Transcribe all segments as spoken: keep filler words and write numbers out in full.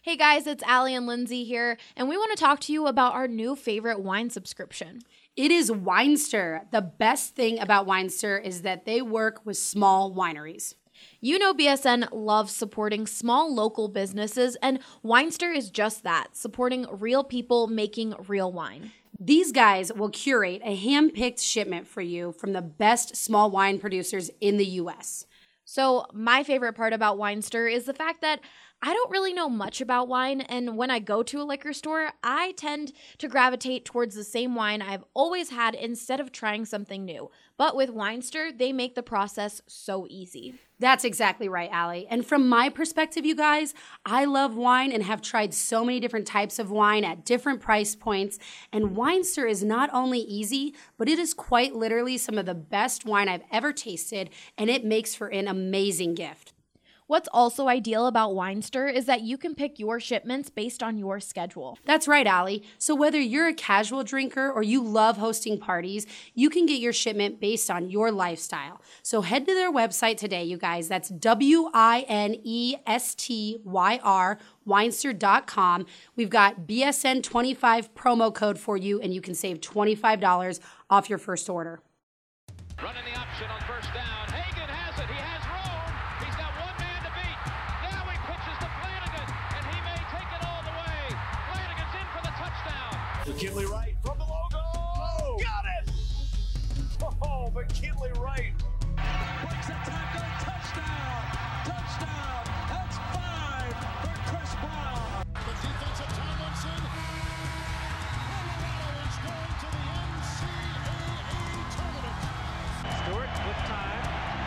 Hey guys, it's Allie and Lindsay here, and we want to talk to you about our new favorite wine subscription. It is Winestyr. The best thing about Winestyr is that they work with small wineries. You know B S N loves supporting small local businesses, and Winestyr is just that, supporting real people making real wine. These guys will curate a hand-picked shipment for you from the best small wine producers in the U S. So my favorite part about Winestyr is the fact that I don't really know much about wine, and when I go to a liquor store, I tend to gravitate towards the same wine I've always had instead of trying something new. But with Winestyr, they make the process so easy. That's exactly right, Allie. And from my perspective, you guys, I love wine and have tried so many different types of wine at different price points. And Winestyr is not only easy, but it is quite literally some of the best wine I've ever tasted, and it makes for an amazing gift. What's also ideal about Winestyr is that you can pick your shipments based on your schedule. That's right, Allie. So whether you're a casual drinker or you love hosting parties, you can get your shipment based on your lifestyle. So head to their website today, you guys. That's W I N E S T Y R, winestyr dot com. We've got B S N twenty-five promo code for you, and you can save twenty-five dollars off your first order. Running the option on first down. Hagan has it. He has room. He's got one man to beat. Now he pitches to Flanagan, and he may take it all the way. Flanagan's in for the touchdown. McKinley Wright from the logo. Oh, got it. Oh, McKinley Wright. Breaks a tackle. Touchdown. Touchdown. That's five for Chris Brown. The defensive Tomlinson. Colorado is going to the N C double A tournament. Stewart with time.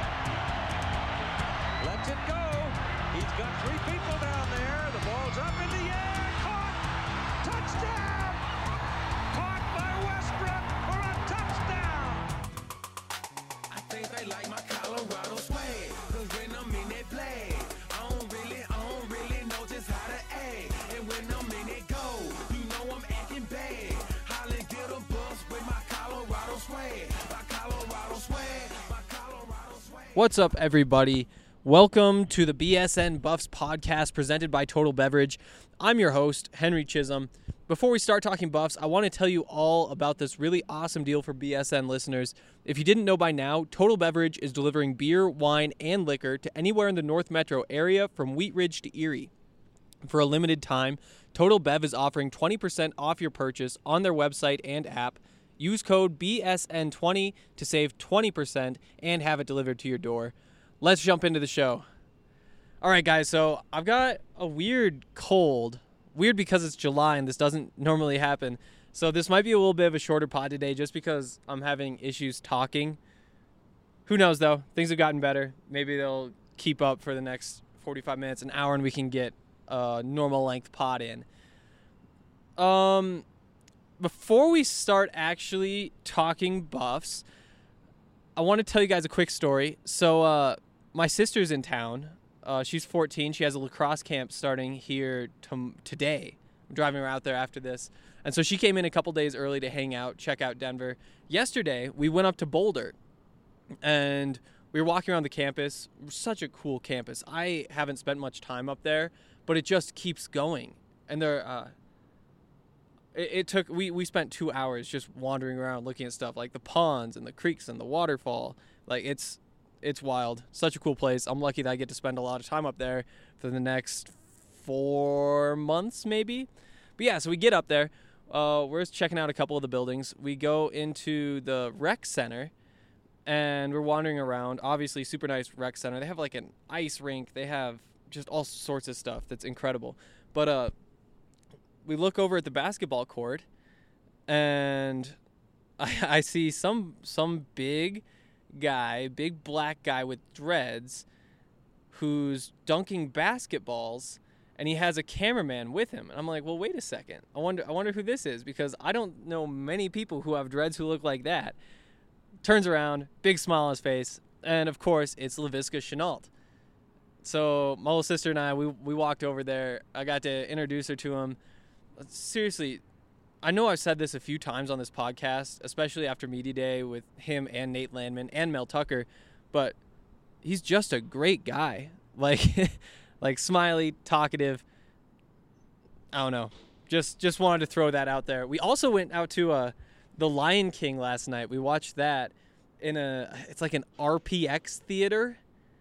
Lets it go. He's got three people down there. The ball's up in the air. Caught. Touchdown. Caught by Westbrook for a touchdown. I think they like my Colorado swag, cause when I'm in that play, I don't really, I don't really know just how to act. And when I'm in it go, you know I'm acting bad. Holly get a bus with my Colorado swag, my Colorado swag, my Colorado swag. What's up, everybody? Welcome to the B S N Buffs podcast presented by Total Beverage. I'm your host, Henry Chisholm. Before we start talking Buffs, I want to tell you all about this really awesome deal for B S N listeners. If you didn't know by now, Total Beverage is delivering beer, wine, and liquor to anywhere in the North Metro area from Wheat Ridge to Erie. For a limited time, Total Bev is offering twenty percent off your purchase on their website and app. Use code B S N twenty to save twenty percent and have it delivered to your door. Let's jump into the show. All right, guys, so I've got a weird cold. Weird because it's July and this doesn't normally happen. So this might be a little bit of a shorter pod today just because I'm having issues talking. Who knows, though? Things have gotten better. Maybe they'll keep up for the next forty-five minutes, an hour, and we can get a normal length pod in. Um, before we start actually talking Buffs, I want to tell you guys a quick story. So uh, my sister's in town. Uh, she's fourteen. She has a lacrosse camp starting here t- today. I'm driving her out there after this. And so she came in a couple days early to hang out, check out Denver. Yesterday, we went up to Boulder, and we were walking around the campus. Such a cool campus. I haven't spent much time up there, but it just keeps going. And there, uh, it, it took, we, we spent two hours just wandering around looking at stuff like the ponds and the creeks and the waterfall. Like, it's, It's wild. Such a cool place. I'm lucky that I get to spend a lot of time up there for the next four months, maybe. But yeah, so we get up there. Uh, we're just checking out a couple of the buildings. We go into the rec center, and we're wandering around. Obviously, super nice rec center. They have like an ice rink. They have just all sorts of stuff that's incredible. But uh, we look over at the basketball court, and I, I see some some big guy, big black guy with dreads who's dunking basketballs, and he has a cameraman with him. And I'm like, well, wait a second. I wonder I wonder who this is, because I don't know many people who have dreads who look like that. Turns around, big smile on his face, and of course, it's Laviska Shenault. So my little sister and I, we we walked over there. I got to introduce her to him. Seriously, I know I've said this a few times on this podcast, especially after Media Day with him and Nate Landman and Mel Tucker, but he's just a great guy. Like, like smiley, talkative, I don't know. Just just wanted to throw that out there. We also went out to uh, the Lion King last night. We watched that in a, it's like an R P X theater.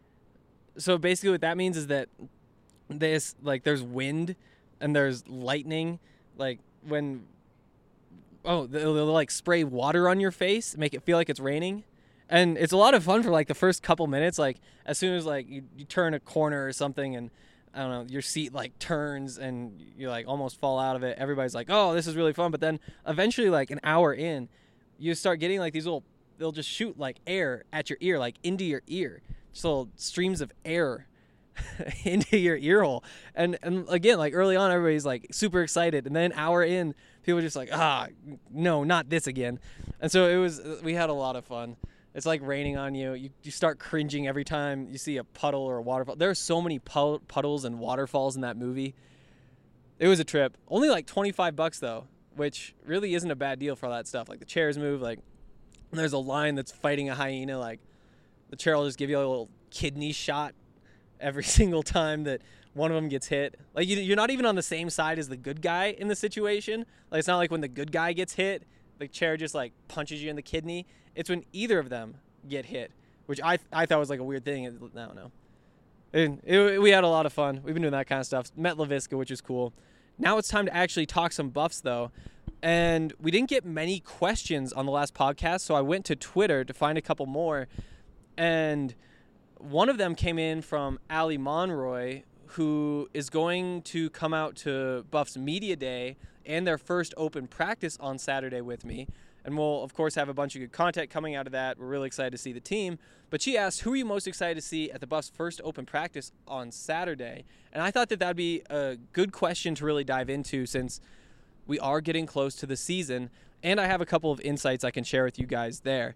So basically what that means is that this, like, there's wind and there's lightning. Like when, oh, they'll, they'll like spray water on your face, make it feel like it's raining. And it's a lot of fun for like the first couple minutes. Like as soon as like you, you turn a corner or something and I don't know, your seat like turns and you like almost fall out of it. Everybody's like, oh, this is really fun. But then eventually, like an hour in, you start getting like these little, they'll just shoot like air at your ear, like into your ear. Just little streams of air into your ear hole. And, and again, like early on, everybody's like super excited. And then an hour in, people are just like, ah, no, not this again. And so it was, we had a lot of fun. It's like raining on you. You you start cringing every time you see a puddle or a waterfall. There are so many pu- puddles and waterfalls in that movie. It was a trip. Only like twenty-five bucks though, which really isn't a bad deal for all that stuff. Like the chairs move. Like there's a lion that's fighting a hyena. Like the chair will just give you a little kidney shot every single time that one of them gets hit. Like you, you're not even on the same side as the good guy in the situation. Like it's not like when the good guy gets hit, the chair just like punches you in the kidney. It's when either of them get hit, which I I thought was like a weird thing. I don't know. And it, we had a lot of fun. We've been doing that kind of stuff. Met LaVisca, which is cool. Now it's time to actually talk some Buffs, though. And we didn't get many questions on the last podcast, so I went to Twitter to find a couple more. And one of them came in from Allie Monroy, who is going to come out to Buffs Media Day and their first open practice on Saturday with me. And we'll, of course, have a bunch of good content coming out of that. We're really excited to see the team. But she asked, who are you most excited to see at the Buffs' first open practice on Saturday? And I thought that that would be a good question to really dive into since we are getting close to the season. And I have a couple of insights I can share with you guys there.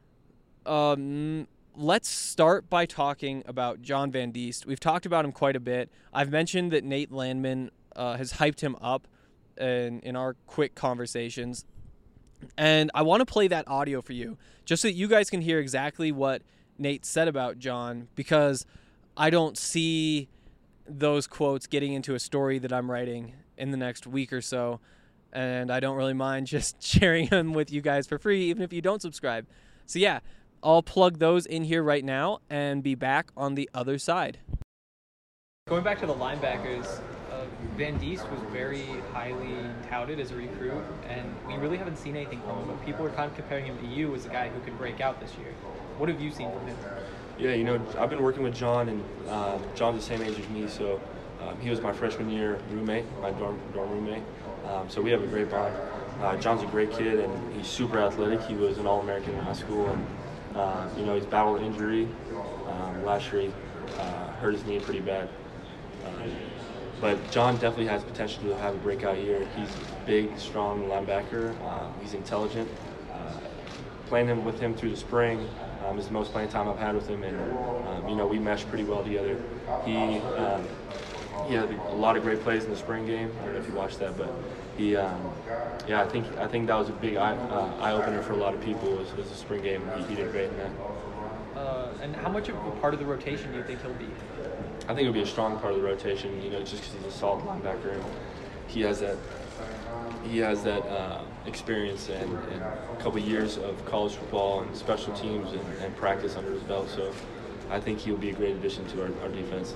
Um, let's start by talking about John Van Diest. We've talked about him quite a bit. I've mentioned that Nate Landman uh, has hyped him up in, in our quick conversations. And I want to play that audio for you just so that you guys can hear exactly what Nate said about John, because I don't see those quotes getting into a story that I'm writing in the next week or so. And I don't really mind just sharing them with you guys for free, even if you don't subscribe. So yeah, I'll plug those in here right now and be back on the other side. Going back to the linebackers, uh, Van Diest was very highly touted as a recruit, and we really haven't seen anything from him. But people are kind of comparing him to you as a guy who could break out this year. What have you seen from him? Yeah, you know, I've been working with John, and uh, John's the same age as me, so um, he was my freshman year roommate, my dorm, dorm roommate. Um, so we have a great bond. Uh, John's a great kid, and he's super athletic. He was an All-American in high school, and uh, you know, he's battled injury. Um, last year, he uh, hurt his knee pretty bad. Um, but John definitely has potential to have a breakout year. He's a big, strong linebacker. Uh, he's intelligent. Uh, playing him with him through the spring um, is the most playing time I've had with him, and um, you know, we meshed pretty well together. He um, he had a lot of great plays in the spring game. I don't know if you watched that, but he, um, yeah, I think I think that was a big eye, uh, eye opener for a lot of people. Was, was the spring game. He, he did great in that. Uh, and how much of a part of the rotation do you think he'll be? I think it'll be a strong part of the rotation, you know, just because he's a solid linebacker and he has that he has that uh, experience and, and a couple years of college football and special teams and, and practice under his belt. So I think he'll be a great addition to our, our defense.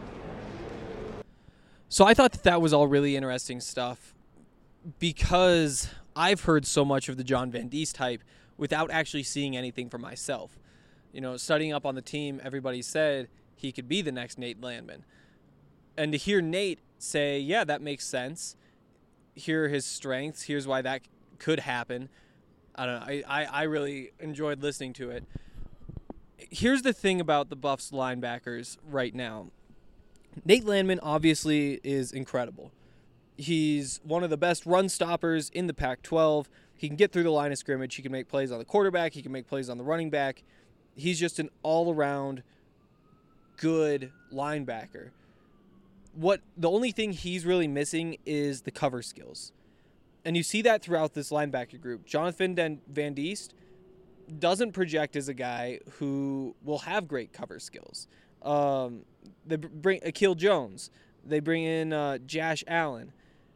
So I thought that that was all really interesting stuff because I've heard so much of the John Van Diest hype without actually seeing anything for myself. You know, studying up on the team, everybody said he could be the next Nate Landman. And to hear Nate say, yeah, that makes sense. Here are his strengths. Here's why that could happen. I don't know. I, I, I really enjoyed listening to it. Here's the thing about the Buffs linebackers right now. Nate Landman obviously is incredible. He's one of the best run stoppers in the Pac twelve. He can get through the line of scrimmage. He can make plays on the quarterback. He can make plays on the running back. He's just an all-around good linebacker. What the only thing he's really missing is the cover skills. And you see that throughout this linebacker group. Jonathan Van Diest doesn't project as a guy who will have great cover skills. Um, they bring Akil Jones. They bring in uh, Josh Allen.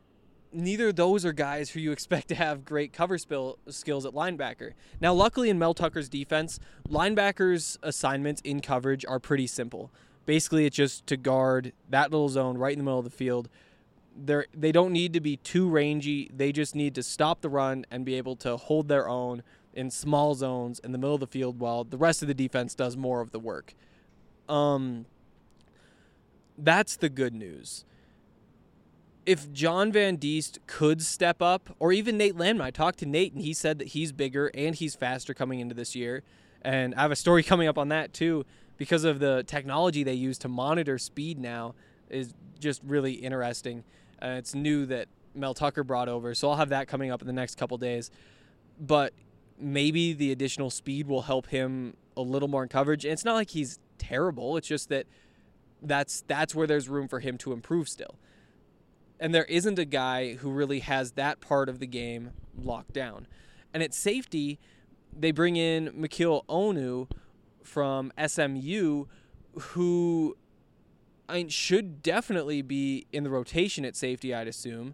neither of those are guys who you expect to have great cover spill skills at linebacker. Now, luckily in Mel Tucker's defense, linebackers' assignments in coverage are pretty simple. Basically, it's just to guard that little zone right in the middle of the field. They're, they don't need to be too rangy. They just need to stop the run and be able to hold their own in small zones in the middle of the field while the rest of the defense does more of the work. Um, that's the good news. If John Van Diest could step up, or even Nate Landman, I talked to Nate and he said that he's bigger and he's faster coming into this year. And I have a story coming up on that too, because of the technology they use to monitor speed now is just really interesting. Uh, it's new that Mel Tucker brought over, so I'll have that coming up in the next couple days. But maybe the additional speed will help him a little more in coverage. And it's not like he's terrible. It's just that that's that's where there's room for him to improve still. And there isn't a guy who really has that part of the game locked down. And at safety, they bring in Mikhail Onu from S M U, who I mean, should definitely be in the rotation at safety, I'd assume.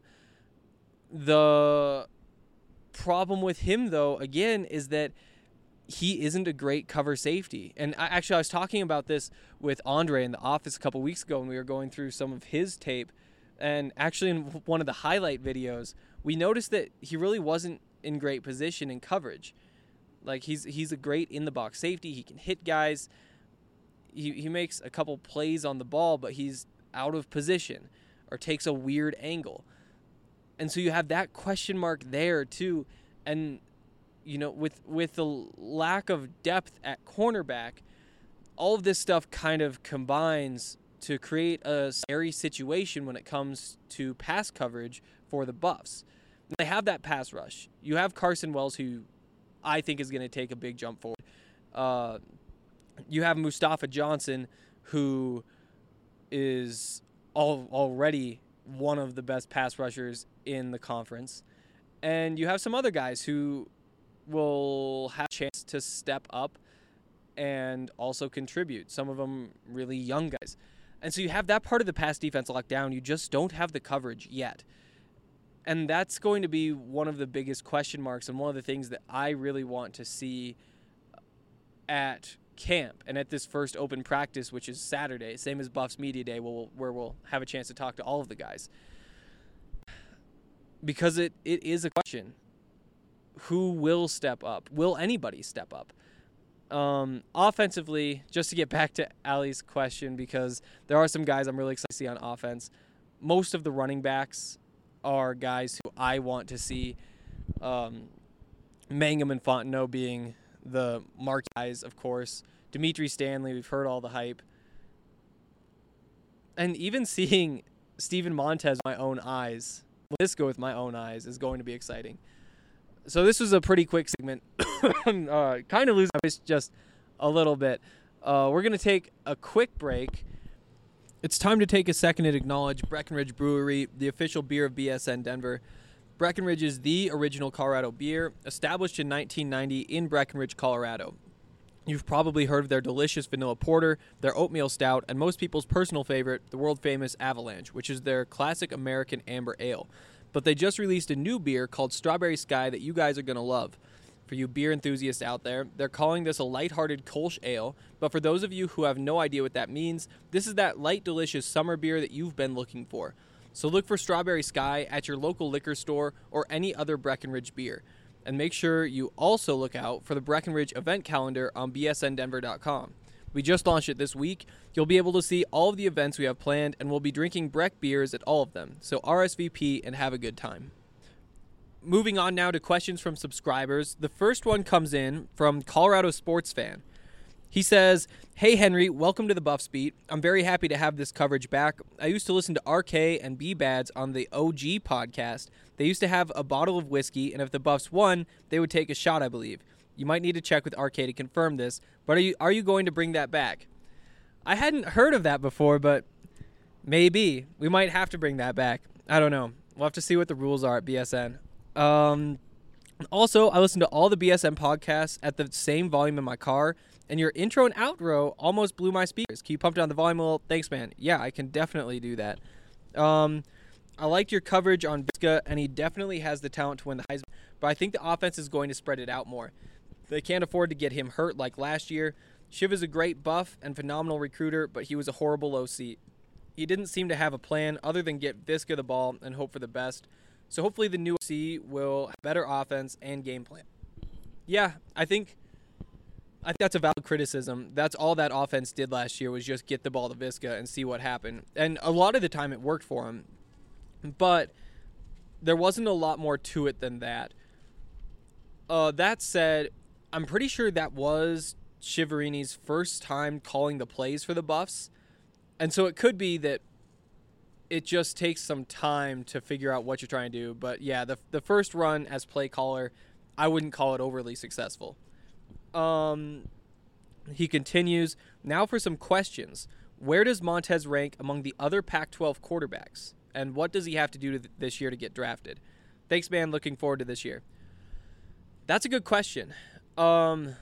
The problem with him, though, again, is that he isn't a great cover safety. And I, actually, I was talking about this with Andre in the office a couple weeks ago when we were going through some of his tape. And actually, in one of the highlight videos, we noticed that he really wasn't in great position in coverage. Like, he's he's a great in-the-box safety. He can hit guys. He, he makes a couple plays on the ball, but he's out of position or takes a weird angle. And so you have that question mark there, too. And, you know, with, with the lack of depth at cornerback, all of this stuff kind of combines to create a scary situation when it comes to pass coverage for the Buffs. They have that pass rush. You have Carson Wells, who I think is going to take a big jump forward. Uh, you have Mustafa Johnson, who is all, already one of the best pass rushers in the conference. And you have some other guys who will have a chance to step up and also contribute. Some of them really young guys. And so you have that part of the pass defense locked down. You just don't have the coverage yet. And that's going to be one of the biggest question marks and one of the things that I really want to see at camp and at this first open practice, which is Saturday, same as Buffs Media Day, where we'll, where we'll have a chance to talk to all of the guys. Because it, it is a question. Who will step up? Will anybody step up? Um, offensively, just to get back to Ali's question, because there are some guys I'm really excited to see on offense. Most of the running backs are guys who I want to see. Um, Mangum and Fontenot being the marquee guys, of course. Dimitri Stanley, we've heard all the hype. And even seeing Steven Montez with my own eyes, Lisco with my own eyes, is going to be exciting. So this was a pretty quick segment. uh, kind of losing my voice just a little bit. Uh, we're going to take a quick break. It's time to take a second and acknowledge Breckenridge Brewery, the official beer of B S N Denver. Breckenridge is the original Colorado beer, established in nineteen ninety in Breckenridge, Colorado. You've probably heard of their delicious vanilla porter, their oatmeal stout, and most people's personal favorite, the world-famous Avalanche, which is their classic American amber ale. But they just released a new beer called Strawberry Sky that you guys are going to love. For you beer enthusiasts out there, they're calling this a lighthearted Kolsch ale, but for those of you who have no idea what that means, this is that light, delicious summer beer that you've been looking for. So look for Strawberry Sky at your local liquor store or any other Breckenridge beer. And make sure you also look out for the Breckenridge event calendar on b s n denver dot com. We just launched it this week. You'll be able to see all of the events we have planned, and we'll be drinking Breck beers at all of them. So R S V P and have a good time. Moving on now to questions from subscribers. The first one comes in from Colorado Sports Fan. He says, "Hey Henry, welcome to the Buffs Beat. I'm very happy to have this coverage back. I used to listen to R K and B-Bads on the O G podcast. They used to have a bottle of whiskey, and if the Buffs won, they would take a shot, I believe. You might need to check with R K to confirm this, but are you are you going to bring that back?" I hadn't heard of that before, but maybe. We might have to bring that back. I don't know. We'll have to see what the rules are at B S N. Um, also, I listen to all the B S N podcasts at the same volume in my car, and your intro and outro almost blew my speakers. Can you pump down the volume a little? Thanks, man. Yeah, I can definitely do that. Um, I liked your coverage on Viska, and he definitely has the talent to win the Heisman, but I think the offense is going to spread it out more. They can't afford to get him hurt like last year. Shiv is a great buff and phenomenal recruiter, but he was a horrible O C. He didn't seem to have a plan other than get Viska the ball and hope for the best. So hopefully the new O C will have better offense and game plan. Yeah, I think I think that's a valid criticism. That's all that offense did last year was just get the ball to Viska and see what happened. And a lot of the time it worked for him. But there wasn't a lot more to it than that. Uh, that said, I'm pretty sure that was Shiverini's first time calling the plays for the Buffs. And so it could be that it just takes some time to figure out what you're trying to do. But yeah, the the first run as play caller, I wouldn't call it overly successful. Um, he continues, now for some questions. Where does Montez rank among the other Pac twelve quarterbacks? And what does he have to do to th- this year to get drafted? Thanks, man. Looking forward to this year. That's a good question. Um,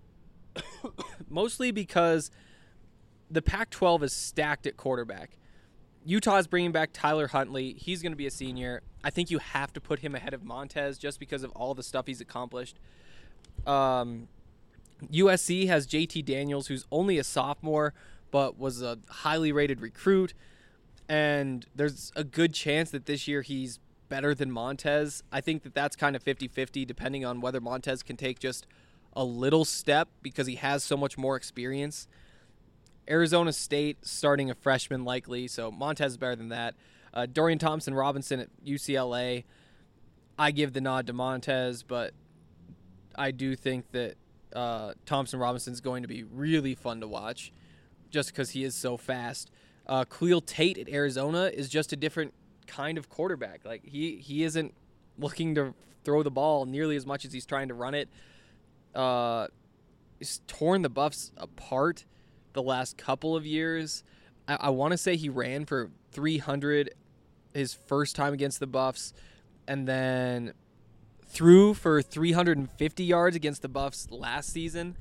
mostly because the Pac twelve is stacked at quarterback. Utah's bringing back Tyler Huntley. He's going to be a senior. I think you have to put him ahead of Montez just because of all the stuff he's accomplished. Um, U S C has J T Daniels, who's only a sophomore, but was a highly rated recruit. And there's a good chance that this year he's better than Montez. I think that that's kind of fifty-fifty depending on whether Montez can take just a little step because he has so much more experience. Arizona State starting a freshman likely, so Montez is better than that. Uh, Dorian Thompson-Robinson at U C L A, I give the nod to Montez, but I do think that uh, Thompson-Robinson is going to be really fun to watch just because he is so fast. Uh, Khalil Tate at Arizona is just a different kind of quarterback. Like he, he isn't looking to throw the ball nearly as much as he's trying to run it. Uh, he's torn the Buffs apart the last couple of years. I, I want to say he ran for three hundred his first time against the Buffs, and then threw for three hundred fifty yards against the Buffs last season.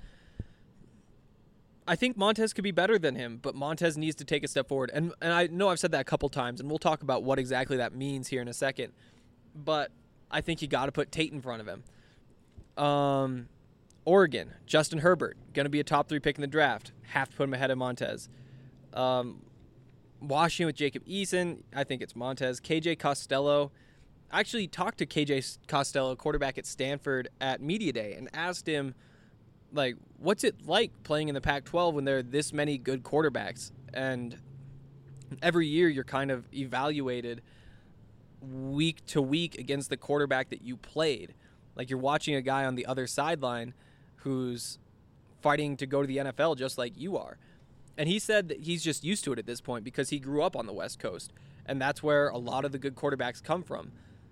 I think Montez could be better than him, but Montez needs to take a step forward. And and I know I've said that a couple times, and we'll talk about what exactly that means here in a second. But I think you got to put Tate in front of him. Um, Oregon, Justin Herbert, going to be a top three pick in the draft. Have to put him ahead of Montez. Um, Washington with Jacob Eason, I think it's Montez. K J Costello. I actually talked to K J Costello, quarterback at Stanford, at Media Day and asked him, like, what's it like playing in the Pac twelve when there are this many good quarterbacks? And every year you're kind of evaluated week to week against the quarterback that you played. Like you're watching a guy on the other sideline who's fighting to go to the N F L just like you are. And he said that he's just used to it at this point because he grew up on the West Coast. And that's where a lot of the good quarterbacks come from.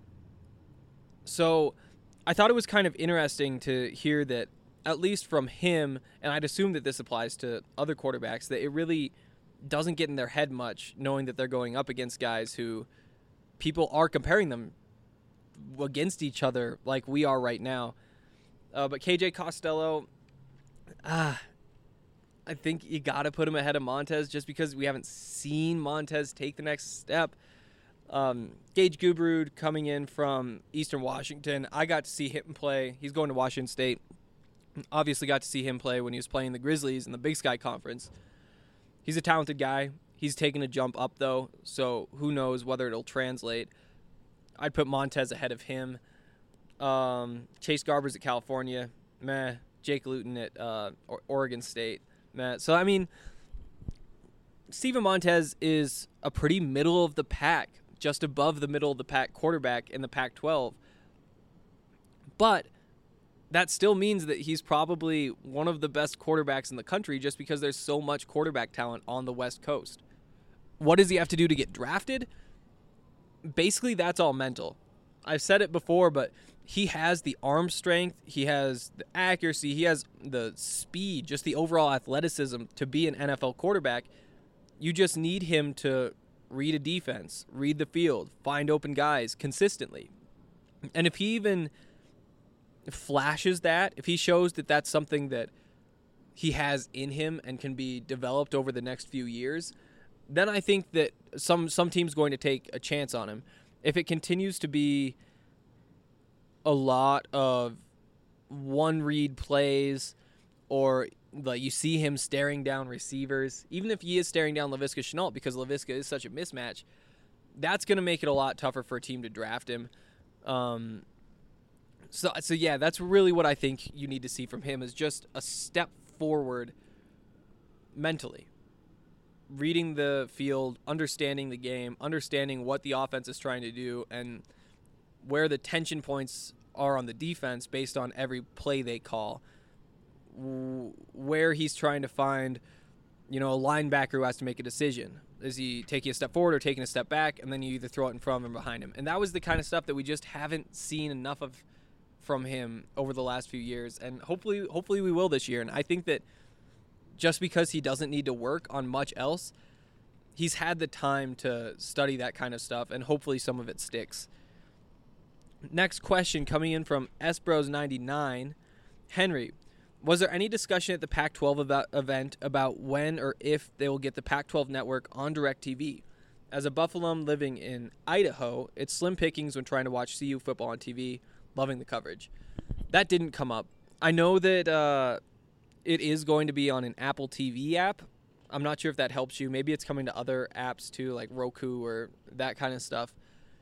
So I thought it was kind of interesting to hear that, at least from him, and I'd assume that this applies to other quarterbacks, that it really doesn't get in their head much knowing that they're going up against guys who people are comparing them against each other like we are right now. Uh, but K J Costello, ah, I think you got to put him ahead of Montez just because we haven't seen Montez take the next step. Um, Gage Gubrud coming in from Eastern Washington. I got to see him play. He's going to Washington State. Obviously got to see him play when he was playing the Grizzlies in the Big Sky Conference. He's a talented guy. He's taken a jump up, though, so who knows whether it'll translate. I'd put Montez ahead of him. Um, Chase Garbers at California. Meh. Jake Luton at uh, Oregon State. Meh. So, I mean, Steven Montez is a pretty middle of the pack, just above the middle of the pack quarterback in the Pac twelve. But that still means that he's probably one of the best quarterbacks in the country just because there's so much quarterback talent on the West Coast. What does he have to do to get drafted? Basically, that's all mental. I've said it before, but he has the arm strength, he has the accuracy, he has the speed, just the overall athleticism to be an N F L quarterback. You just need him to read a defense, read the field, find open guys consistently. And if he even flashes that, if he shows that that's something that he has in him and can be developed over the next few years, then I think that some some team's going to take a chance on him. If it continues to be a lot of one-read plays, or like you see him staring down receivers, even if he is staring down Laviska Shenault because Laviska is such a mismatch, that's going to make it a lot tougher for a team to draft him. Um, so, so yeah, that's really what I think you need to see from him, is just a step forward mentally. Reading the field, understanding the game, understanding what the offense is trying to do, and where the tension points are on the defense based on every play they call. Where he's trying to find, you know, a linebacker who has to make a decision. Is he taking a step forward or taking a step back, and then you either throw it in front of him or behind him? And that was the kind of stuff that we just haven't seen enough of from him over the last few years, and hopefully hopefully we will this year. And I think that just because he doesn't need to work on much else, he's had the time to study that kind of stuff, and hopefully some of it sticks. Next question coming in from S Bros ninety-nine. Henry, was there any discussion at the Pac twelve about, event about when or if they will get the Pac twelve network on DirecTV? As a Buffalum living in Idaho, it's slim pickings when trying to watch C U football on T V. Loving the coverage. That didn't come up. I know that uh, it is going to be on an Apple T V app. I'm not sure if that helps you. Maybe it's coming to other apps too, like Roku or that kind of stuff.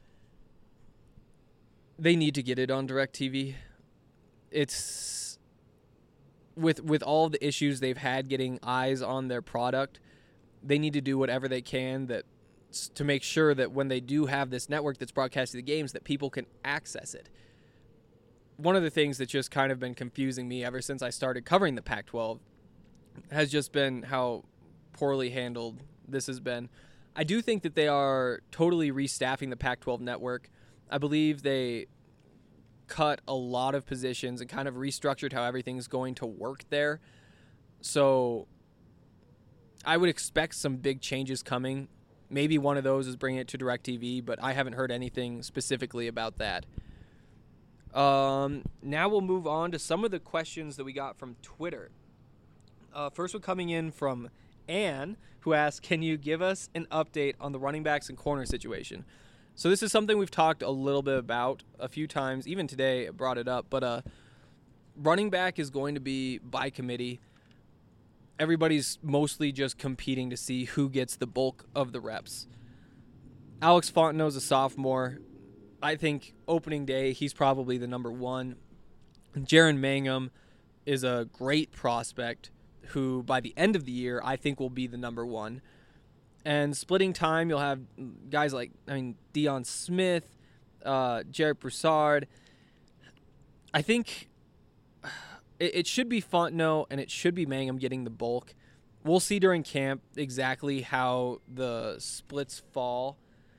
They need to get it on DirecTV. It's with with all the issues they've had getting eyes on their product, they need to do whatever they can that to make sure that when they do have this network that's broadcasting the games, that people can access it. One of the things that's just kind of been confusing me ever since I started covering the Pac twelve has just been how poorly handled this has been. I do think that they are totally restaffing the Pac twelve network. I believe they cut a lot of positions and kind of restructured how everything's going to work there. So I would expect some big changes coming. Maybe one of those is bringing it to DirecTV, but I haven't heard anything specifically about that. Um, now we'll move on to some of the questions that we got from Twitter. Uh, first one coming in from Anne, who asked, can you give us an update on the running backs and corner situation? So this is something we've talked a little bit about a few times. Even today I brought it up. But uh, running back is going to be by committee. Everybody's mostly just competing to see who gets the bulk of the reps. Alex Fontenot's a sophomore. I think opening day, he's probably the number one. Jaron Mangum is a great prospect who, by the end of the year, I think will be the number one. And splitting time, you'll have guys like, I mean, Deion Smith, uh, Jarrett Broussard. I think it, it should be Fontenot and it should be Mangum getting the bulk. We'll see during camp exactly how the splits fall.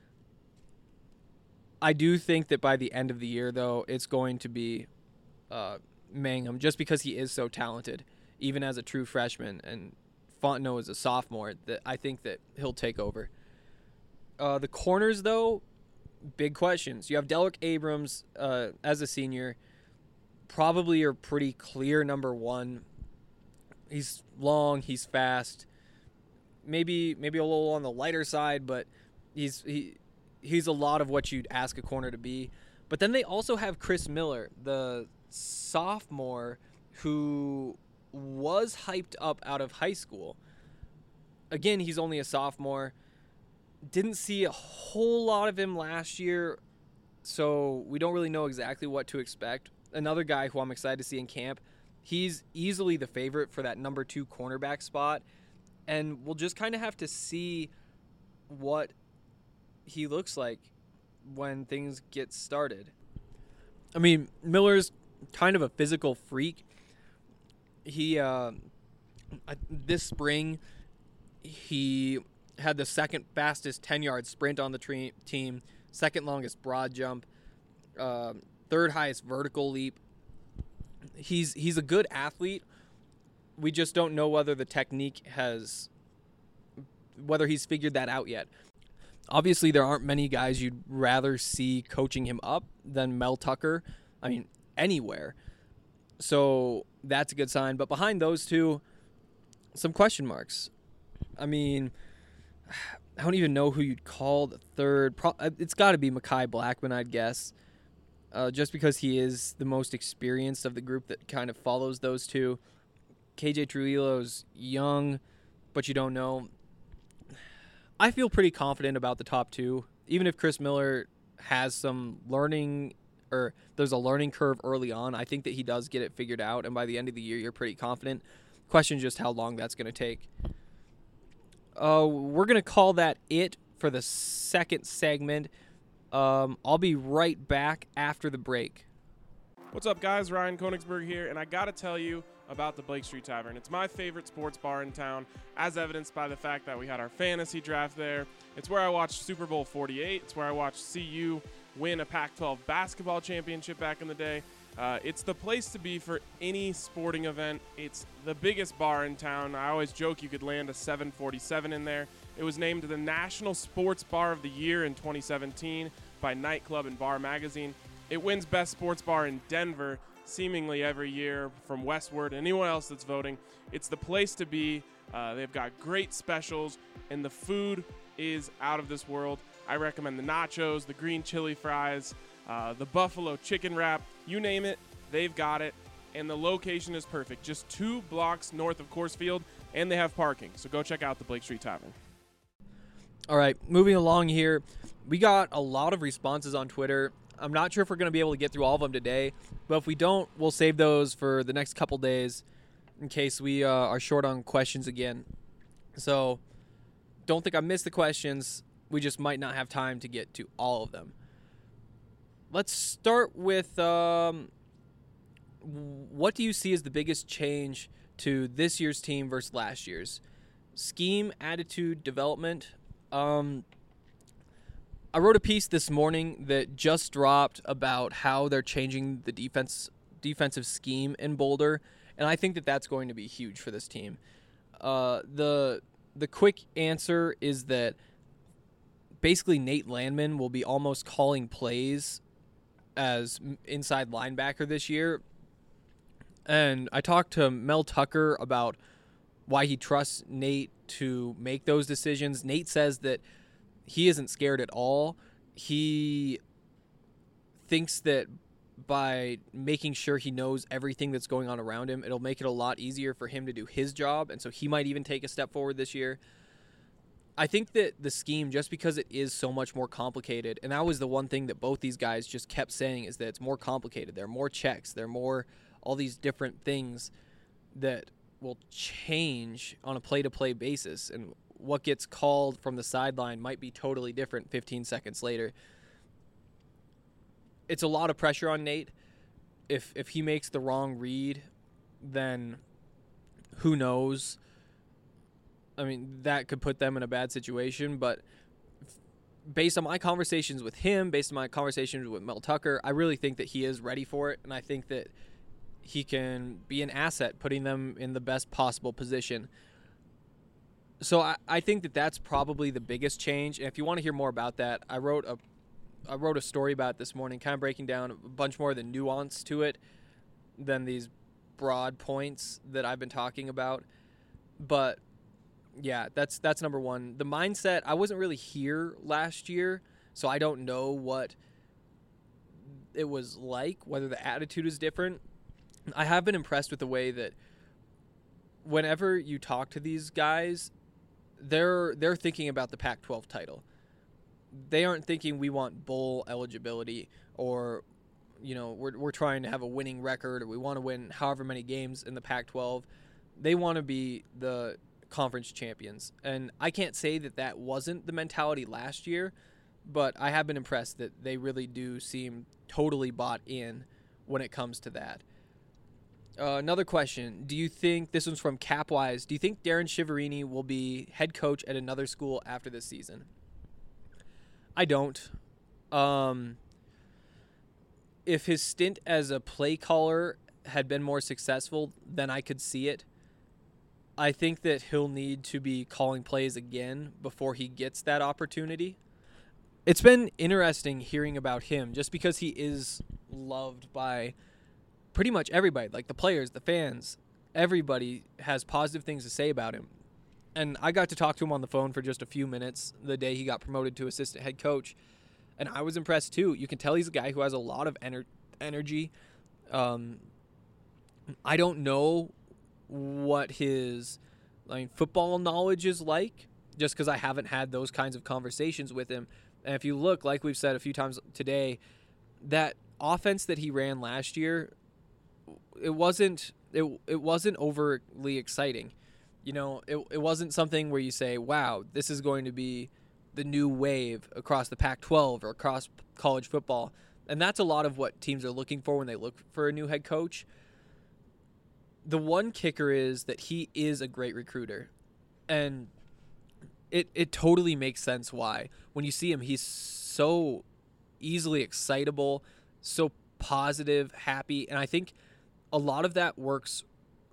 I do think that by the end of the year, though, it's going to be uh, Mangum, just because he is so talented, even as a true freshman, and Fontenot is a sophomore, that I think that he'll take over. Uh, the corners, though, big questions. You have Delrick Abrams uh, as a senior, probably your pretty clear number one. He's long, he's fast, maybe maybe a little on the lighter side, but he's he he's a lot of what you'd ask a corner to be. But then they also have Chris Miller, the sophomore, who was hyped up out of high school. Again, he's only a sophomore. Didn't see a whole lot of him last year, so we don't really know exactly what to expect. Another guy who I'm excited to see in camp, he's easily the favorite for that number two cornerback spot, and we'll just kind of have to see what he looks like when things get started. I mean, Miller's kind of a physical freak. He, uh, this spring, he had the second fastest ten-yard sprint on the tre- team, second longest broad jump, uh, third highest vertical leap. He's he's a good athlete. We just don't know whether the technique has, whether he's figured that out yet. Obviously, there aren't many guys you'd rather see coaching him up than Mel Tucker. I mean, anywhere. So that's a good sign. But behind those two, some question marks. I mean, I don't even know who you'd call the third. Pro- it's got to be Mekhi Blackman, I'd guess, uh, just because he is the most experienced of the group that kind of follows those two. K J Trujillo's young, but you don't know. I feel pretty confident about the top two, even if Chris Miller has some learning or there's a learning curve early on. I think that he does get it figured out, and by the end of the year, you're pretty confident. Question just how long that's going to take. Uh, we're going to call that it for the second segment. Um, I'll be right back after the break. What's up, guys? Ryan Konigsberg here, and I got to tell you about the Blake Street Tavern. It's my favorite sports bar in town, as evidenced by the fact that we had our fantasy draft there. It's where I watched Super Bowl forty-eight. It's where I watched C U win a Pac twelve basketball championship back in the day. Uh, it's the place to be for any sporting event. It's the biggest bar in town. I always joke you could land a seven forty-seven in there. It was named the National Sports Bar of the Year in twenty seventeen by Nightclub and Bar Magazine. It wins Best Sports Bar in Denver seemingly every year from Westward. Anyone else that's voting, it's the place to be. Uh, they've got great specials, and the food is out of this world. I recommend the nachos, the green chili fries, uh, the buffalo chicken wrap. You name it, they've got it, and the location is perfect. Just two blocks north of Coors Field, and they have parking. So go check out the Blake Street Tavern. All right, moving along here. We got a lot of responses on Twitter. I'm not sure if we're going to be able to get through all of them today, but if we don't, we'll save those for the next couple days in case we uh, are short on questions again. So don't think I missed the questions. We just might not have time to get to all of them. Let's start with um, what do you see as the biggest change to this year's team versus last year's? Scheme, attitude, development. Um, I wrote a piece this morning that just dropped about how they're changing the defense defensive scheme in Boulder, and I think that that's going to be huge for this team. Uh, the the quick answer is that basically Nate Landman will be almost calling plays as inside linebacker this year. And I talked to Mel Tucker about why he trusts Nate to make those decisions. Nate says that he isn't scared at all. He thinks that by making sure he knows everything that's going on around him, it'll make it a lot easier for him to do his job, and so he might even take a step forward this year. I think that the scheme, just because it is so much more complicated, and that was the one thing that both these guys just kept saying, is that it's more complicated. There are more checks. There are more all these different things that will change on a play-to-play basis, and what gets called from the sideline might be totally different fifteen seconds later. It's a lot of pressure on Nate. If if he makes the wrong read, then who knows? I mean, that could put them in a bad situation, but based on my conversations with him, based on my conversations with Mel Tucker, I really think that he is ready for it, and I think that he can be an asset, putting them in the best possible position. So I, I think that that's probably the biggest change. And if you want to hear more about that, I wrote a I wrote a story about it this morning, kind of breaking down a bunch more of the nuance to it than these broad points that I've been talking about. But yeah, that's that's number one. The mindset, I wasn't really here last year, so I don't know what it was like, whether the attitude is different. I have been impressed with the way that whenever you talk to these guys, they're they're thinking about the Pac twelve title. They aren't thinking we want bowl eligibility, or you know, we're we're trying to have a winning record, or we want to win however many games in the Pac twelve. They want to be the conference champions. And I can't say that that wasn't the mentality last year, but I have been impressed that they really do seem totally bought in when it comes to that. Uh, another question. Do you think, this one's from Capwise, do you think Darren Shiverini will be head coach at another school after this season? I don't. Um, if his stint as a play caller had been more successful, then I could see it. I think that he'll need to be calling plays again before he gets that opportunity. It's been interesting hearing about him just because he is loved by pretty much everybody, like the players, the fans. Everybody has positive things to say about him. And I got to talk to him on the phone for just a few minutes the day he got promoted to assistant head coach. And I was impressed too. You can tell he's a guy who has a lot of ener- energy. Um, I don't know what his I mean, football knowledge is like, just because I haven't had those kinds of conversations with him. And if you look, like we've said a few times today, that offense that he ran last year, it wasn't it it wasn't overly exciting. You know, it it wasn't something where you say, wow, this is going to be the new wave across the Pac twelve or across college football. And that's a lot of what teams are looking for when they look for a new head coach. The one kicker is that he is a great recruiter. And it it totally makes sense why. When you see him, he's so easily excitable, so positive, happy. And I think a lot of that works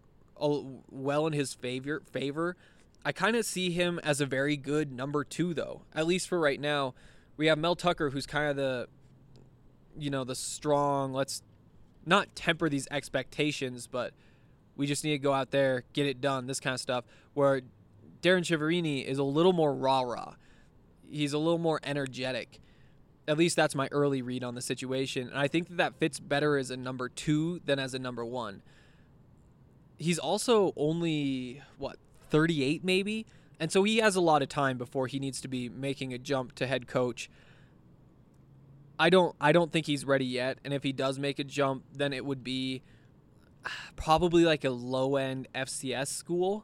well in his favor. favor. I kind of see him as a very good number two, though, at least for right now. We have Mel Tucker, who's kind of the, you know, the strong, let's not temper these expectations, but we just need to go out there, get it done, this kind of stuff, where Darren Chiaverini is a little more rah-rah. He's a little more energetic. At least that's my early read on the situation. And I think that that fits better as a number two than as a number one. He's also only, what, thirty-eight maybe? And so he has a lot of time before he needs to be making a jump to head coach. I don't I don't think he's ready yet. And if he does make a jump, then it would be probably like a low-end F C S school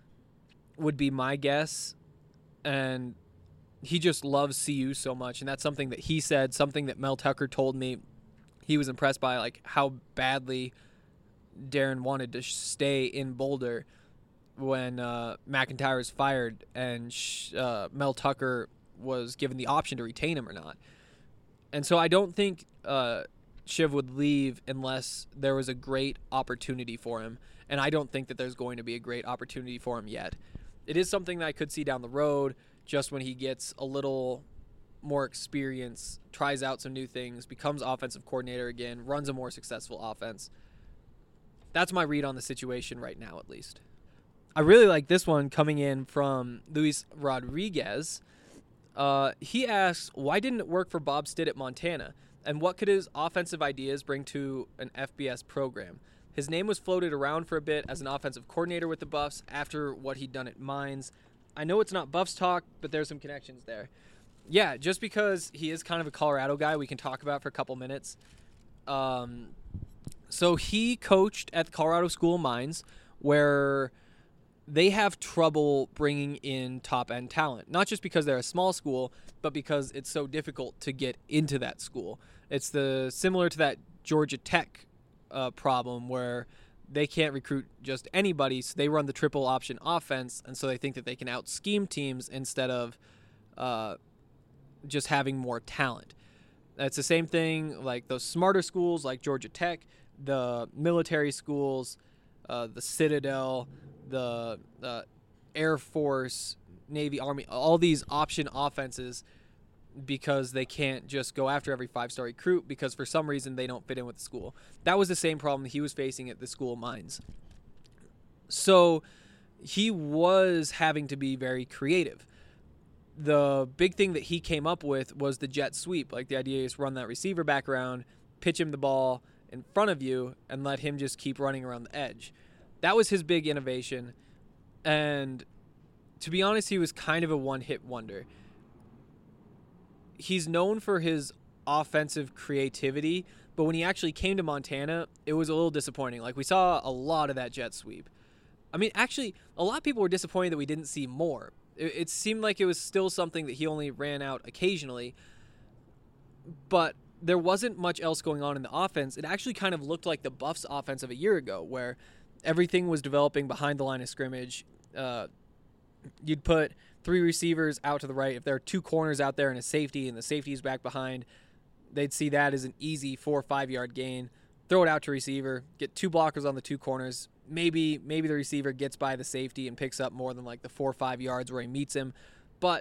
would be my guess. And he just loves C U so much. And that's something that he said, something that Mel Tucker told me. He was impressed by, like, how badly Darren wanted to stay in Boulder when uh, McIntyre was fired and sh- uh, Mel Tucker was given the option to retain him or not. And so I don't think uh, Shiv would leave unless there was a great opportunity for him. And I don't think that there's going to be a great opportunity for him yet. It is something that I could see down the road, just when he gets a little more experience, tries out some new things, becomes offensive coordinator again, runs a more successful offense. That's my read on the situation right now, at least. I really like this one coming in from Luis Rodriguez. Uh, he asks, why didn't it work for Bob Stitt at Montana? And what could his offensive ideas bring to an F B S program? His name was floated around for a bit as an offensive coordinator with the Buffs after what he'd done at Mines. I know it's not Buffs talk, but there's some connections there. Yeah, just because he is kind of a Colorado guy we can talk about for a couple minutes. Um, so he coached at the Colorado School of Mines, where they have trouble bringing in top-end talent. Not just because they're a small school, but because it's so difficult to get into that school. It's the similar to that Georgia Tech uh, problem where they can't recruit just anybody, so they run the triple option offense, and so they think that they can out-scheme teams instead of uh, just having more talent. It's the same thing like those smarter schools like Georgia Tech, the military schools, uh, the Citadel, the uh, Air Force, Navy, Army, all these option offenses, because they can't just go after every five-star recruit because for some reason they don't fit in with the school. That was the same problem he was facing at the School of Mines. So he was having to be very creative. The big thing that he came up with was the jet sweep. Like, the idea is run that receiver back around, pitch him the ball in front of you, and let him just keep running around the edge. That was his big innovation. And to be honest, he was kind of a one-hit wonder. He's known for his offensive creativity, but when he actually came to Montana, it was a little disappointing. Like, we saw a lot of that jet sweep. I mean, actually, a lot of people were disappointed that we didn't see more. It, it seemed like it was still something that he only ran out occasionally, but there wasn't much else going on in the offense. It actually kind of looked like the Buffs offense of a year ago, where everything was developing behind the line of scrimmage. Uh, you'd put three receivers out to the right. If there are two corners out there and a safety, and the safety is back behind, they'd see that as an easy four or five yard gain. Throw it out to receiver, get two blockers on the two corners. Maybe maybe the receiver gets by the safety and picks up more than like the four or five yards where he meets him. But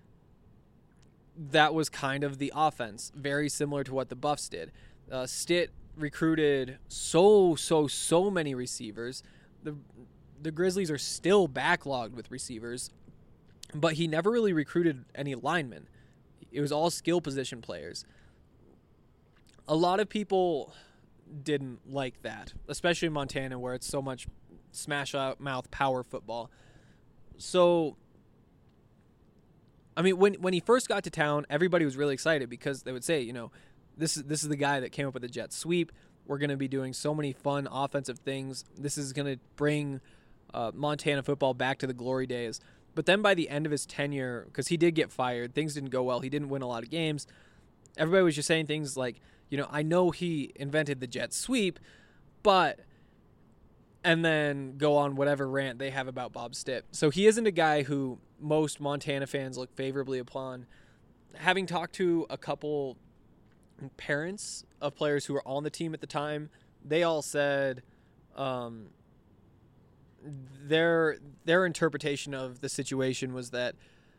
that was kind of the offense, very similar to what the Buffs did. Uh, Stitt recruited so, so, so many receivers. The the Grizzlies are still backlogged with receivers, but he never really recruited any linemen. It was all skill position players. A lot of people didn't like that, especially in Montana where it's so much smash-mouth power football. So, I mean, when when he first got to town, everybody was really excited because they would say, you know, this is this is the guy that came up with the jet sweep. We're going to be doing so many fun offensive things. This is going to bring uh, Montana football back to the glory days. But then by the end of his tenure, because he did get fired, things didn't go well. He didn't win a lot of games. Everybody was just saying things like, you know, I know he invented the jet sweep, but, and then go on whatever rant they have about Bob Stitt. So he isn't a guy who most Montana fans look favorably upon. Having talked to a couple parents of players who were on the team at the time, they all said um, their their interpretation of the situation was that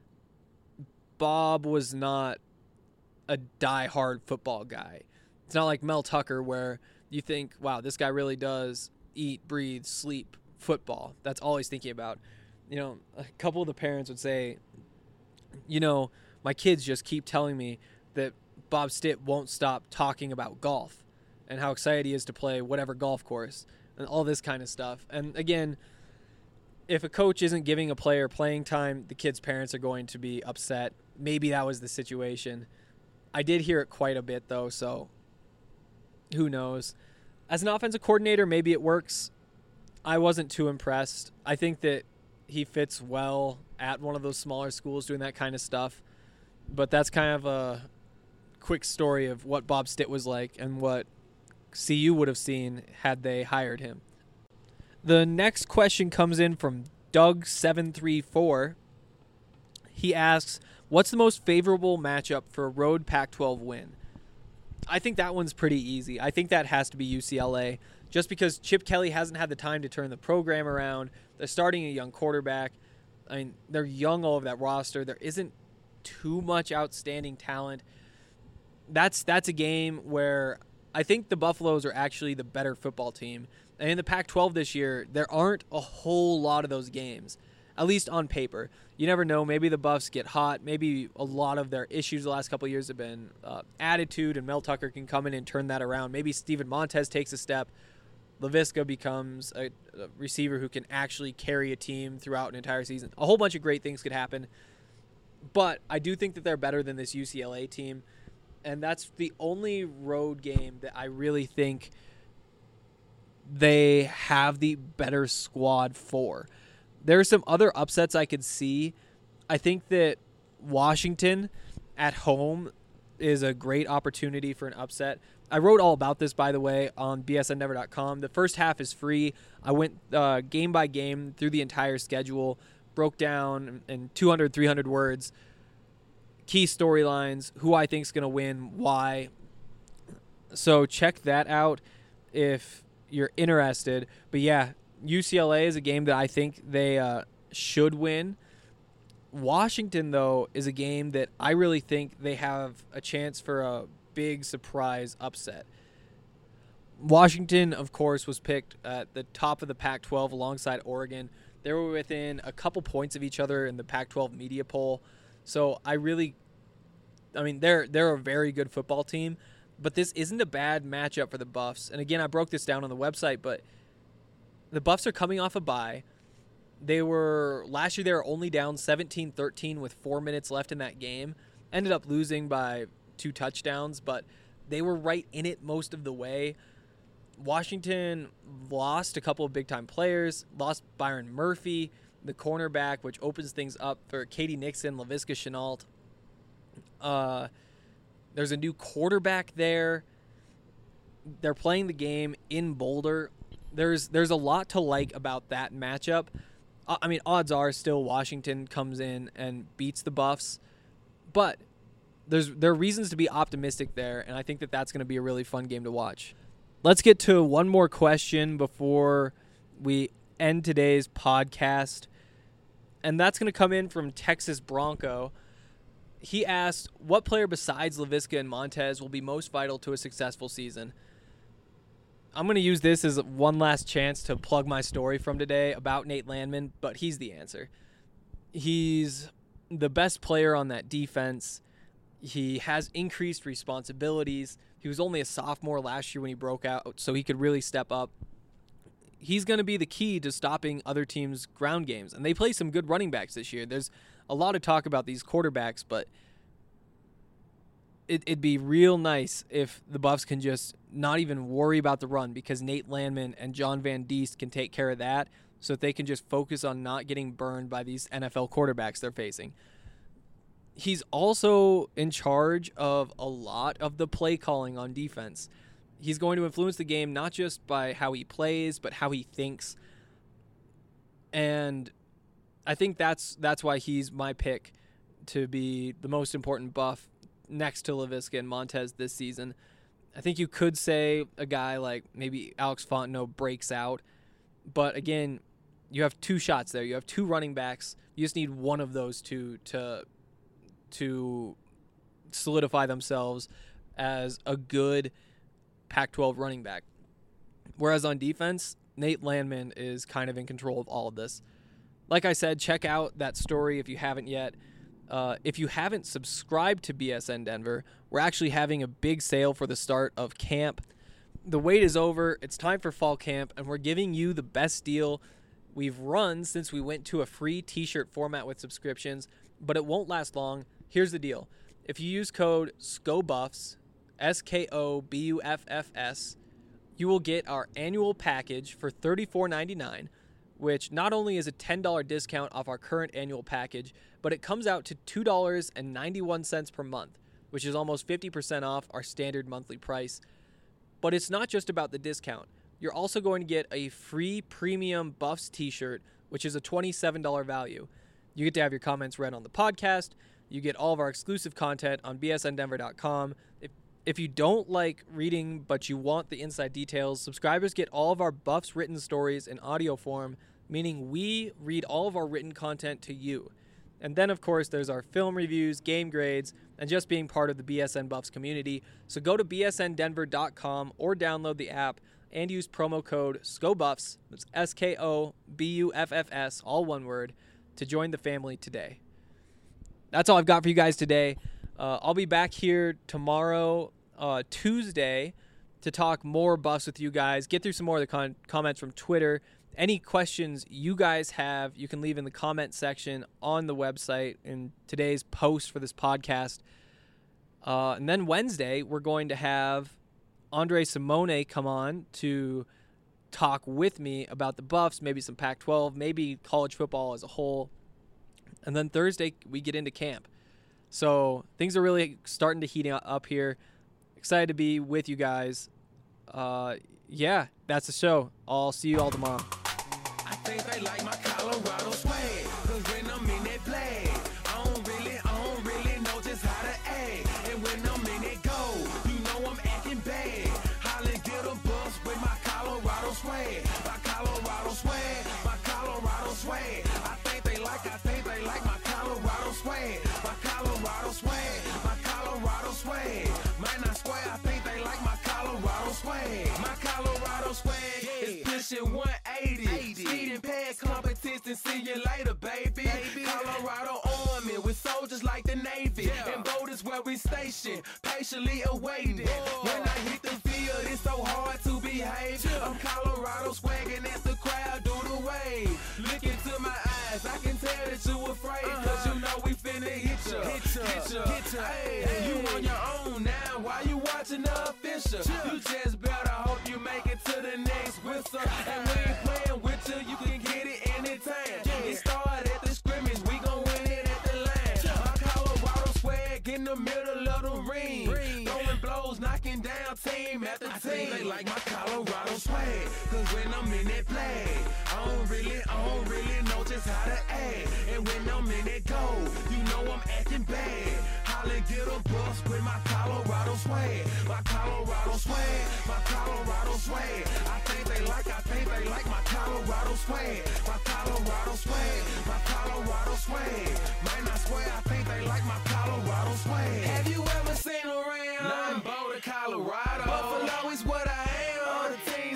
Bob was not a die-hard football guy. It's not like Mel Tucker where you think, wow, this guy really does eat, breathe, sleep football. That's all he's thinking about. You know, a couple of the parents would say, you know, my kids just keep telling me that Bob Stitt won't stop talking about golf and how excited he is to play whatever golf course and all this kind of stuff. And again, if a coach isn't giving a player playing time, the kids' parents are going to be upset. Maybe that was the situation. I did hear it quite a bit, though, so who knows. As an offensive coordinator, maybe it works. I wasn't too impressed. I think that he fits well at one of those smaller schools doing that kind of stuff. But that's kind of a quick story of what Bob Stitt was like and what C U would have seen had they hired him. The next question comes in from Doug seven three four. He asks, what's the most favorable matchup for a road Pac twelve win? I think that one's pretty easy. I think that has to be U C L A, just because Chip Kelly hasn't had the time to turn the program around. They're starting a young quarterback. I mean, they're young all over that roster. There isn't too much outstanding talent. That's that's a game where I think the Buffaloes are actually the better football team. And in the Pac twelve this year, there aren't a whole lot of those games, at least on paper. You never know. Maybe the Buffs get hot. Maybe a lot of their issues the last couple of years have been uh, attitude, and Mel Tucker can come in and turn that around. Maybe Steven Montez takes a step. Laviska becomes a, a receiver who can actually carry a team throughout an entire season. A whole bunch of great things could happen. But I do think that they're better than this U C L A team. And that's the only road game that I really think they have the better squad for. There are some other upsets I could see. I think that Washington at home is a great opportunity for an upset. I wrote all about this, by the way, on B S N Never dot com. The first half is free. I went uh, game by game through the entire schedule, broke down in two hundred, three hundred words, key storylines, who I think is going to win, why. So check that out if you're interested. But yeah, U C L A is a game that I think they uh, should win. Washington, though, is a game that I really think they have a chance for a big surprise upset. Washington, of course, was picked at the top of the Pac twelve alongside Oregon. They were within a couple points of each other in the Pac twelve media poll. So I really, I mean, they're they're a very good football team, but this isn't a bad matchup for the Buffs. And again, I broke this down on the website, but the Buffs are coming off a bye. They were, last year they were only down seventeen thirteen with four minutes left in that game. Ended up losing by two touchdowns, but they were right in it most of the way. Washington lost a couple of big-time players, lost Byron Murphy, the cornerback, which opens things up for Katie Nixon, Laviska Shenault. Uh, there's a new quarterback there. They're playing the game in Boulder. There's there's a lot to like about that matchup. Uh, I mean, odds are still Washington comes in and beats the Buffs, but there's there are reasons to be optimistic there, and I think that that's going to be a really fun game to watch. Let's get to one more question before we end today's podcast, and that's going to come in from Texas Bronco. He asked, what player besides Laviska and Montez will be most vital to a successful season? I'm going to use this as one last chance to plug my story from today about Nate Landman, but he's the answer. He's the best player on that defense. He has increased responsibilities. He was only a sophomore last year when he broke out, so he could really step up. He's going to be the key to stopping other teams' ground games, and they play some good running backs this year. There's a lot of talk about these quarterbacks, but it, it'd be real nice if the Buffs can just not even worry about the run, because Nate Landman and John Van Diest can take care of that, so that they can just focus on not getting burned by these N F L quarterbacks they're facing. He's also in charge of a lot of the play calling on defense. He's going to influence the game not just by how he plays, but how he thinks. And I think that's that's why he's my pick to be the most important Buff next to Laviska and Montez this season. I think you could say a guy like maybe Alex Fontenot breaks out. But again, you have two shots there. You have two running backs. You just need one of those two to to solidify themselves as a good Pac twelve running back. Whereas on defense, Nate Landman is kind of in control of all of this. Like I said, check out that story if you haven't yet. Uh, if you haven't subscribed to B S N Denver, we're actually having a big sale for the start of camp. The wait is over. It's time for fall camp, and we're giving you the best deal we've run since we went to a free t-shirt format with subscriptions, but it won't last long. Here's the deal. If you use code SKOBUFFS, S K O B U F F S, you will get our annual package for thirty-four ninety-nine, which not only is a ten dollars discount off our current annual package, but it comes out to two dollars and ninety-one cents per month, which is almost fifty percent off our standard monthly price. But it's not just about the discount. You're also going to get a free premium Buffs t-shirt, which is a twenty-seven dollars value. You get to have your comments read on the podcast. You get all of our exclusive content on B S N Denver dot com. If If you don't like reading but you want the inside details, subscribers get all of our Buffs written stories in audio form, meaning we read all of our written content to you. And then, of course, there's our film reviews, game grades, and just being part of the B S N Buffs community. So go to B S N Denver dot com or download the app and use promo code SKOBUFFS, that's S K O B U F F S, all one word, to join the family today. That's all I've got for you guys today. Uh, I'll be back here tomorrow, uh, Tuesday, to talk more Buffs with you guys, get through some more of the con- comments from Twitter. Any questions you guys have, you can leave in the comment section on the website in today's post for this podcast. Uh, and then Wednesday, we're going to have Andre Simone come on to talk with me about the Buffs, maybe some Pac twelve, maybe college football as a whole. And then Thursday, we get into camp. So things are really starting to heat up here. Excited to be with you guys. Uh, yeah, that's the show. I'll see you all tomorrow. I think they like my Colorado swag, cause when I'm in that flag, I don't really, I don't really know just how to act. And when I'm in that goal, you know I'm acting bad. Holla, get a bus with my Colorado swag, my Colorado swag, my Colorado swag. I think they like, I think they like my Colorado swag, my Colorado swag, my Colorado swag. Might not square, I think they like my Colorado swag, my Colorado swag is pushing one eighty. Speeding past competition, see you later, baby. baby. Colorado Army with soldiers like the Navy. Yeah. And boat is where we station, patiently awaiting. Whoa. When I hit the field, it's so hard to behave. Yeah. I'm Colorado swagging as the crowd do the wave. Look into my eyes, I can tell that you afraid. Uh-huh. Cause you know we finna hit ya, hit ya, hit ya. Hit ya. Hey, hey. You on your own now, why you watching the official? Yeah. You just better hope you make it to the next whistle. And we ain't playing with you, you can get it anytime. Yeah. It started at the scrimmage, we gon' win it at the line. Yeah. My Colorado swag in the middle of the ring. ring. Throwing blows, knocking down team after team. I think they like my Colorado swag, cause when I'm in that flag, I don't really, I don't really know just how to act. And when I'm in that goal, you know I'm acting bad. Holla, get a bus with my Colorado swag, my Colorado swag, my Colorado swag. I think they like, I think they like my Colorado swag, my Colorado swag, my Colorado swag. Might not swear, I think they like my Colorado swag. Have you ever seen around? None Boulder, Colorado. Buffalo is what I am. All the team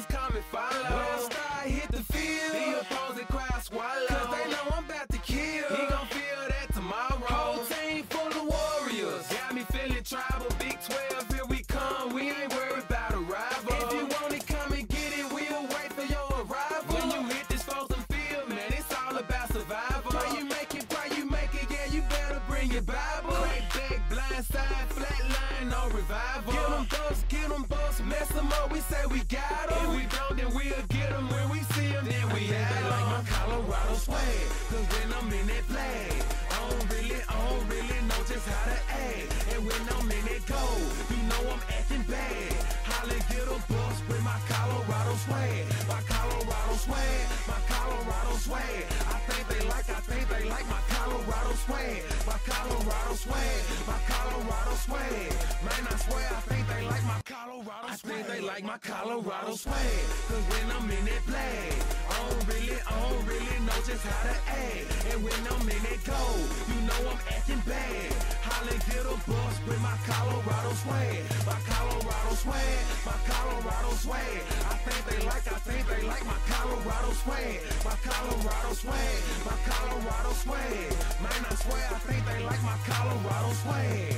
revival. Get them thugs, get them bucks, mess them up, we say we got them. If we don't, then we'll get them when we see them, then we have them. Like my Colorado swag, cause when I'm in that flag, I don't really, I don't really know just how to act. And when I'm in that gold, you know I'm acting bad. Holly get a bus with my Colorado swag, my Colorado swag, my Colorado swag. I think they like, I think they like my Colorado swag, my Colorado swag, my Colorado swag. Man, I swear I think they like my Colorado swag. I think they like my Colorado swag, cause when I'm in that flag, I don't really, I don't really know just how to act. And when I'm in that gold, you know I'm acting bad. Holly get a bus with my Colorado swag, my Colorado swag, my Colorado swag. I think they like, I think they like my Colorado swag, my Colorado swag, my Colorado swag. Man, I swear I think they like my Colorado swag.